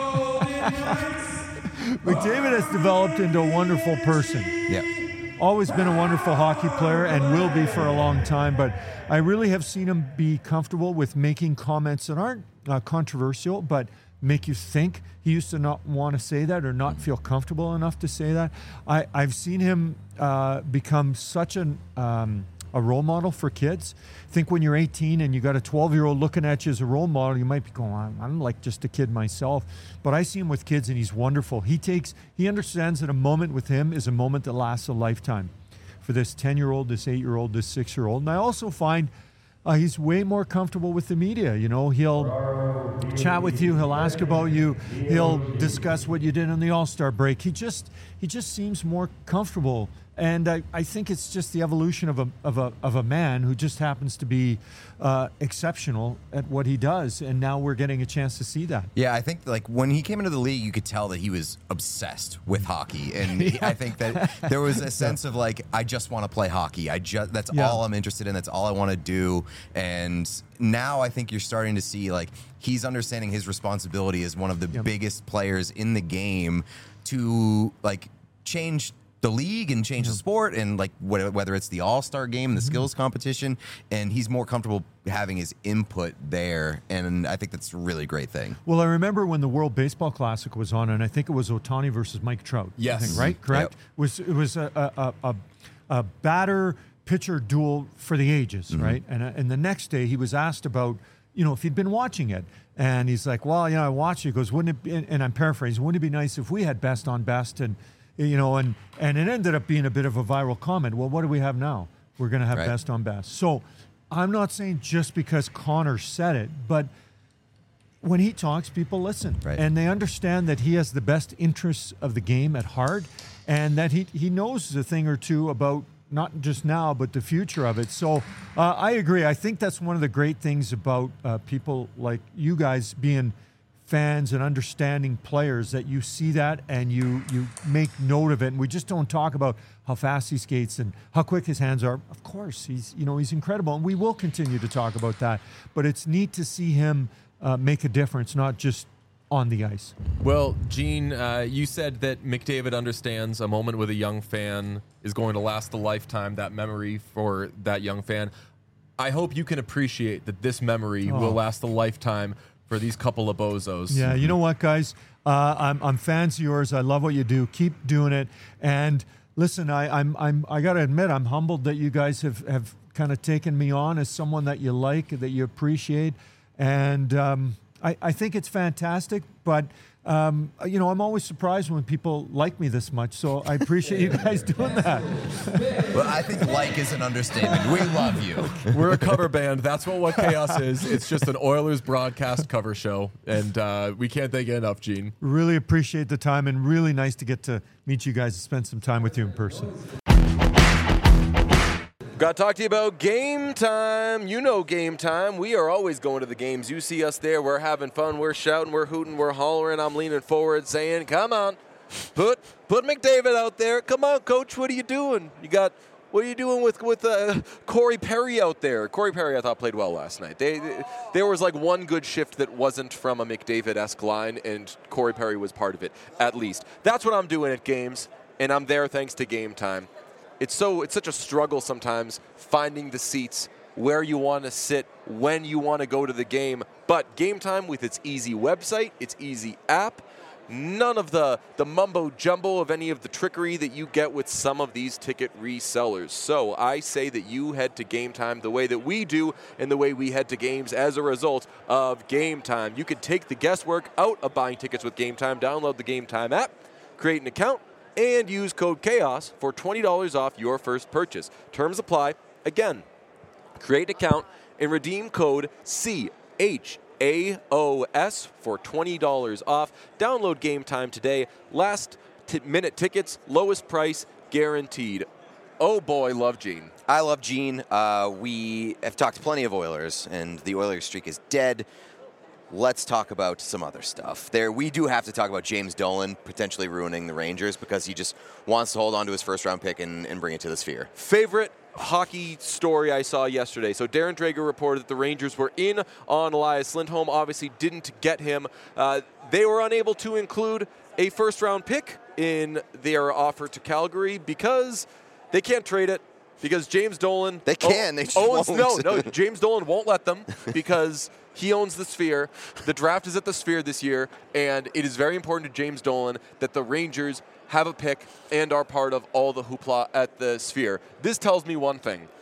McDavid has developed into a wonderful person. Yeah. Always been a wonderful hockey player and will be for a long time, but I really have seen him be comfortable with making comments that aren't uh, controversial, but make you think. He used to not want to say that or not feel comfortable enough to say that. I, I've seen him uh, become such an um, a role model for kids. I think when you're eighteen and you got a twelve-year-old looking at you as a role model, you might be going, I'm, I'm like just a kid myself. But I see him with kids, and he's wonderful. He takes, he understands that a moment with him is a moment that lasts a lifetime. For this ten-year-old, this eight-year-old, this six-year-old. And I also find uh, he's way more comfortable with the media. You know, he'll chat with you, he'll ask about you, he'll discuss what you did on the All-Star break. He just he just seems more comfortable. And I, I think it's just the evolution of a of a of a man who just happens to be uh, exceptional at what he does. And now we're getting a chance to see that. Yeah, I think like when he came into the league, you could tell that he was obsessed with hockey, and Yeah. I think that there was a sense of like, I just want to play hockey. I just that's Yeah. all I'm interested in. That's all I want to do. And now I think you're starting to see like he's understanding his responsibility as one of the Yep. biggest players in the game to like change the league and change the sport, and like wh- whether it's the All-Star game, the skills competition, and he's more comfortable having his input there, and I think that's a really great thing. Well, I remember when the World Baseball Classic was on, and I think it was Ohtani versus Mike Trout. Yes. I think, right? Correct? Yep. Was it was a a, a, a batter pitcher duel for the ages, right? And uh, and the next day he was asked about, you know, if he'd been watching it, and he's like, well, you know, I watched it. He goes, wouldn't it be, and I'm paraphrasing, wouldn't it be nice if we had best on best, and you know, and and it ended up being a bit of a viral comment. Well, what do we have now? We're going to have Right. best on best. So I'm not saying just because Connor said it, but when he talks, people listen. Right. And they understand that he has the best interests of the game at heart, and that he, he knows a thing or two about not just now, but the future of it. So uh, I agree. I think that's one of the great things about uh, people like you guys being fans and understanding players, that you see that and you you make note of it. And we just don't talk about how fast he skates and how quick his hands are. Of course, he's you know he's incredible, and we will continue to talk about that. But it's neat to see him uh, make a difference, not just on the ice. Well, Gene, uh, you said that McDavid understands a moment with a young fan is going to last a lifetime, that memory for that young fan. I hope you can appreciate that this memory Oh. will last a lifetime for these couple of bozos. Yeah, you know what, guys? Uh, I'm I'm fans of yours. I love what you do. Keep doing it. And listen, I I'm I'm I got to admit, I'm humbled that you guys have have kind of taken me on as someone that you like, that you appreciate, and um, I I think it's fantastic. But um, you know, I'm always surprised when people like me this much. So I appreciate you guys doing that. Well, I think like is an understatement. We love you. We're a cover band. That's what What Chaos is. It's just an Oilers broadcast cover show, and uh, we can't thank you enough, Gene. Really appreciate the time, and really nice to get to meet you guys and spend some time with you in person. Got to talk to you about Game Time. You know Game Time. We are always going to the games. You see us there. We're having fun. We're shouting. We're hooting. We're hollering. I'm leaning forward saying, come on. Put put McDavid out there. Come on, Coach. What are you doing? You got what are you doing with with uh, Corey Perry out there? Corey Perry, I thought, played well last night. They, they there was like one good shift that wasn't from a McDavid-esque line, and Corey Perry was part of it, at least. That's what I'm doing at games, and I'm there thanks to Game Time. It's so it's such a struggle sometimes finding the seats where you want to sit, when you want to go to the game. But Game Time, with its easy website, its easy app, none of the, the mumbo jumbo of any of the trickery that you get with some of these ticket resellers. So I say that you head to Game Time the way that we do and the way we head to games as a result of Game Time. You can take the guesswork out of buying tickets with Game Time. Download the Game Time app, create an account, and use code CHAOS for twenty dollars off your first purchase. Terms apply. Again, create an account and redeem code C H A O S for twenty dollars off. Download Game Time today. Last t- minute tickets, lowest price guaranteed. Oh boy, love Gene. I love Gene. Uh, we have talked plenty of Oilers, and the Oilers streak is dead. Let's talk about some other stuff. There, we do have to talk about James Dolan potentially ruining the Rangers because he just wants to hold on to his first-round pick and, and bring it to the Sphere. Favorite hockey story I saw yesterday. So Darren Drager reported that the Rangers were in on Elias Lindholm. Obviously didn't get him. Uh, they were unable to include a first-round pick in their offer to Calgary because they can't trade it. Because James Dolan... They can, they just owns, won't. No, no, James Dolan won't let them because he owns the Sphere. The draft is at the Sphere this year, and it is very important to James Dolan that the Rangers have a pick and are part of all the hoopla at the Sphere. This tells me one thing.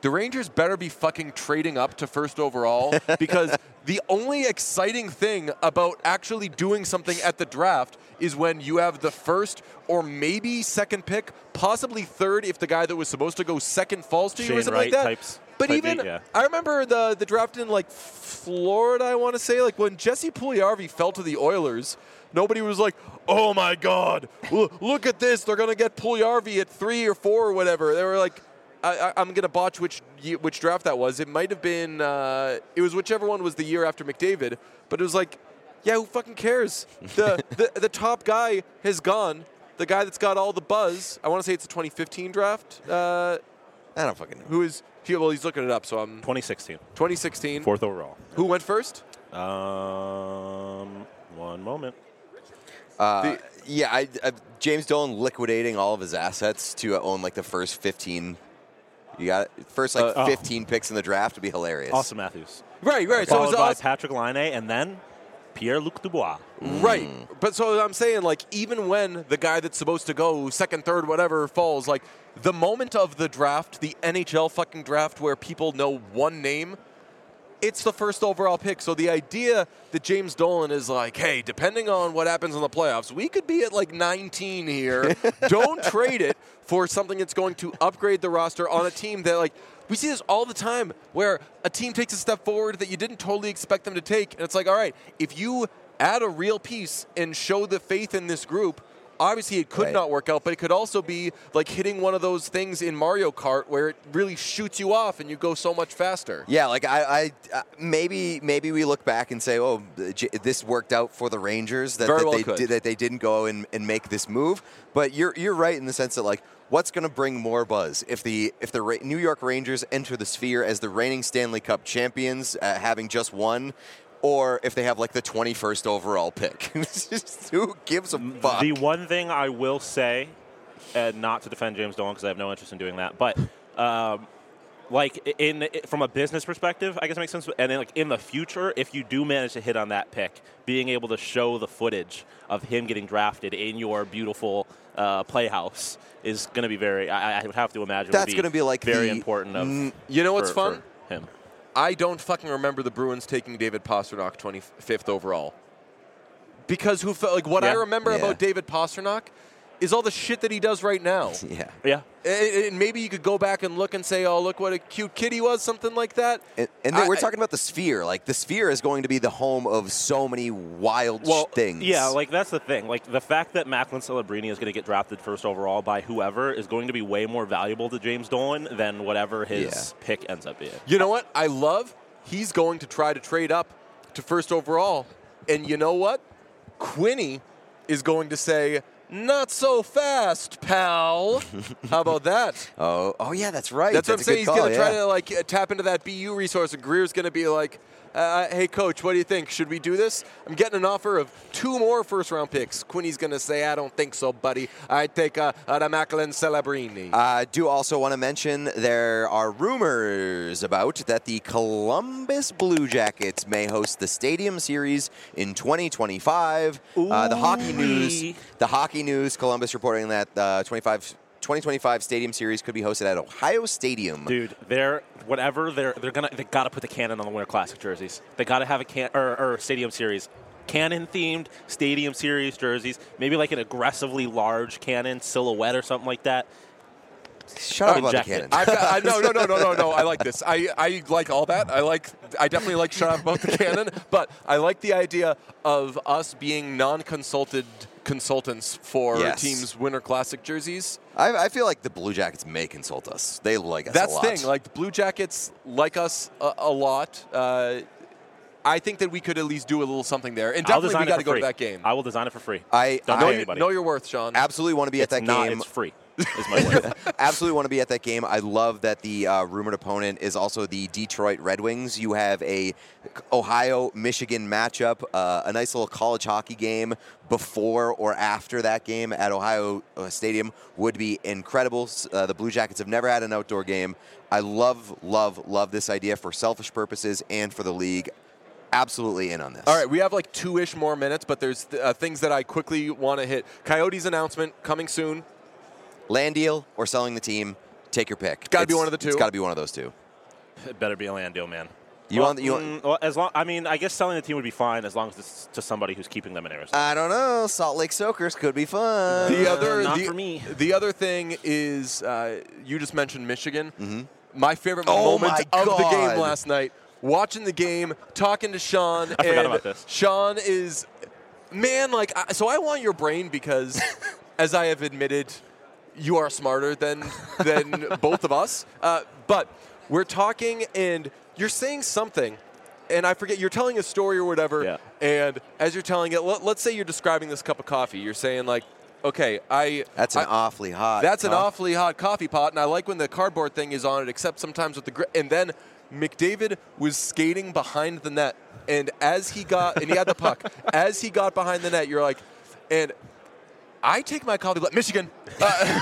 the Rangers better be fucking trading up to first overall because the only exciting thing about actually doing something at the draft is when you have the first or maybe second pick, possibly third if the guy that was supposed to go second falls to you Shane or something Wright like that. types. But Type even, eight, yeah. I remember the the draft in like Florida, I want to say, like when Jesse Puljujarvi fell to the Oilers, nobody was like, oh my God, look, look at this. They're going to get Puljujarvi at three or four or whatever. They were like, I, I, I'm going to botch which ye- which draft that was. It might have been, uh, it was whichever one was the year after McDavid. But it was like, yeah, who fucking cares? The, the, the top guy has gone. The guy that's got all the buzz, I want to say it's a twenty fifteen draft. Uh, I don't fucking know. who is, he, well, he's looking it up, so I'm twenty sixteen. twenty sixteen. Fourth overall. Who went first? Um, one moment. Uh, The- yeah, I, I, James Dolan liquidating all of his assets to own like the first fifteen. You got it? First like Uh, oh. fifteen picks in the draft would be hilarious. Austin Matthews. Right, right. So it Followed was by awesome. Patrick Laine and then Pierre-Luc Dubois. Right. But so I'm saying, like, even when the guy that's supposed to go second, third, whatever falls, like, the moment of the draft, the N H L fucking draft where people know one name, it's the first overall pick. So the idea that James Dolan is like, hey, depending on what happens in the playoffs, we could be at like nineteen here. Don't trade it for something that's going to upgrade the roster on a team that, like, we see this all the time where a team takes a step forward that you didn't totally expect them to take. And it's like, all right, if you add a real piece and show the faith in this group, obviously it could Right. not work out, but it could also be like hitting one of those things in Mario Kart where it really shoots you off and you go so much faster. Yeah, like I, I uh, maybe maybe we look back and say, oh, J- this worked out for the Rangers that, Very that well they could. did, that they didn't go and, and make this move. But you're you're right in the sense that like what's going to bring more buzz if the if the Ra- New York Rangers enter the Sphere as the reigning Stanley Cup champions, uh, having just won. Or if they have like the twenty-first overall pick. Who gives a fuck? The one thing I will say, and not to defend James Dolan because I have no interest in doing that, but um, like in from a business perspective, I guess it makes sense. And then like in the future, if you do manage to hit on that pick, being able to show the footage of him getting drafted in your beautiful uh, playhouse is going to be very. I, I would have to imagine That's would going to be like very the, important. Of, mm, You know what's for- fun? for him. I don't fucking remember the Bruins taking David Pastrnak twenty-fifth overall. Because who felt like what I Yeah. remember Yeah. about David Pastrnak is all the shit that he does right now. yeah. Yeah. And and maybe you could go back and look and say, oh, look what a cute kid he was, something like that. And, and then I- we're talking about the Sphere. Like the Sphere is going to be the home of so many wild Well, things. yeah, like that's the thing. Like the fact that Macklin Celebrini is going to get drafted first overall by whoever is going to be way more valuable to James Dolan than whatever his Yeah. pick ends up being. You know what? I love he's going to try to trade up to first overall. And you know what? Quinny is going to say, not so fast, pal. How about that? Oh, oh yeah, that's right. That's, That's, what I'm saying. a He's good call, going to try yeah. to like uh, tap into that B U resource, and Greer's going to be like, uh, "Hey, coach, what do you think? Should we do this? I'm getting an offer of two more first-round picks." Quinny's going to say, "I don't think so, buddy. I take uh, uh, the Macklin Celebrini." I uh, do also want to mention there are rumors about that the Columbus Blue Jackets may host the Stadium Series in twenty twenty-five. Uh, the Hockey News, the Hockey News, Columbus reporting that uh, twenty-five, twenty twenty-five Stadium Series could be hosted at Ohio Stadium. Dude, they're whatever they're they're gonna they got to put the cannon on the Winter Classic jerseys. They got to have a can or, or Stadium Series. Cannon themed Stadium Series jerseys, maybe like an aggressively large cannon silhouette or something like that. Shut up about the Inject it. cannon. I've got, I, no, no, no, no, no, no. I like this. I, I like all that. I like. I definitely like shut up about the cannon. But I like the idea of us being non-consulted consultants for Yes. teams' Winter Classic jerseys. I, I feel like the Blue Jackets may consult us. They like us That's a the lot. thing. Like the Blue Jackets like us a, a lot. Uh, I think that we could at least do a little something there. And I'll definitely design we got it to for go free. to that game. I will design it for free. I, Don't I know, pay you, anybody. know your worth, Sean. absolutely want to be at It's that not. game. It's free. Is my word. Absolutely want to be at that game. I love that the uh, rumored opponent is also the Detroit Red Wings. You have a Ohio-Michigan matchup, uh, a nice little college hockey game before or after that game at Ohio uh, Stadium would be incredible. Uh, the Blue Jackets have never had an outdoor game. I love, love, love this idea for selfish purposes and for the league. Absolutely in on this. All right, we have like two-ish more minutes, but there's uh, things that I quickly want to hit. Coyotes announcement coming soon. Land deal or selling the team. Take your pick. Gotta be It's- one of the two? It's got to be one of those two. It better be Orlando, man. You well, want? You want? mm, well, as long. I mean, I guess selling the team would be fine as long as it's to somebody who's keeping them in Arizona. I don't know. Salt Lake Soakers could be fun. The other, not the, for me. The other thing is, uh, you just mentioned Michigan. Mm-hmm. My favorite Oh moment my of the game God. last night, watching the game, talking to Sean. I forgot and about this. Sean is, man, like, I, so I want your brain because, as I have admitted, you are smarter than than both of us. Uh, but we're talking, and you're saying something. And I forget, you're telling a story or whatever, Yeah. and as you're telling it, let, let's say you're describing this cup of coffee. You're saying, like, okay, I... That's an I, awfully hot. That's an coffee. awfully hot coffee pot, and I like when the cardboard thing is on it, except sometimes with the... Gri- and then McDavid was skating behind the net, and as he got... and he had the puck. As he got behind the net, you're like... And I take my coffee... Michigan! Uh,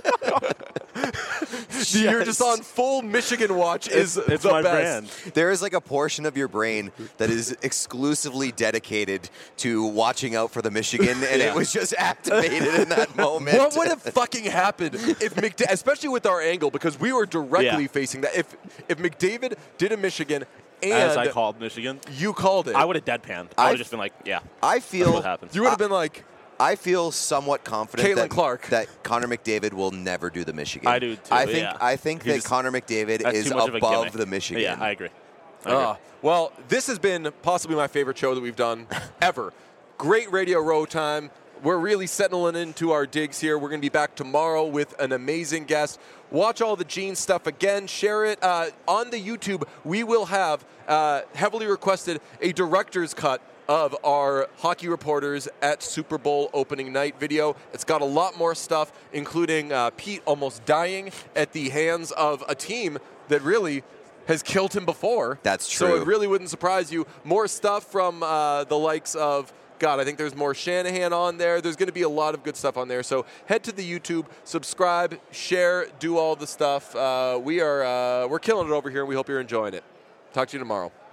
You're just on full Michigan watch is It's, it's the my best. brand. There is like a portion of your brain that is exclusively dedicated to watching out for the Michigan, and Yeah. it was just activated in that moment. What would have fucking happened if McDavid, especially with our angle, because we were directly Yeah. facing that. If if McDavid did a Michigan and As I called Michigan, you called it, I would have deadpanned. I I- would have just been like, yeah, I that's feel what happens. you would have been like, I feel somewhat confident Caitlin that, Clark. that Connor McDavid will never do the Michigan. I do too, I think yeah. I think He's that just- Connor McDavid That's is too much of a above gimmick. the Michigan. Yeah, I agree. I agree. ah. Well, this has been possibly my favorite show that we've done ever. Great Radio Row time. We're really settling into our digs here. We're going to be back tomorrow with an amazing guest. Watch all the Gene stuff again. Share it uh, on the YouTube. We will have uh, heavily requested a director's cut of our hockey reporters at Super Bowl opening night video. It's got a lot more stuff, including uh, Pete almost dying at the hands of a team that really has killed him before. That's So true. it really wouldn't surprise you. More stuff from uh, the likes of, God, I think there's more Shanahan on there. There's going to be a lot of good stuff on there. So head to the YouTube, subscribe, share, do all the stuff. Uh, we are uh, we're killing it over here, and we hope you're enjoying it. Talk to you tomorrow.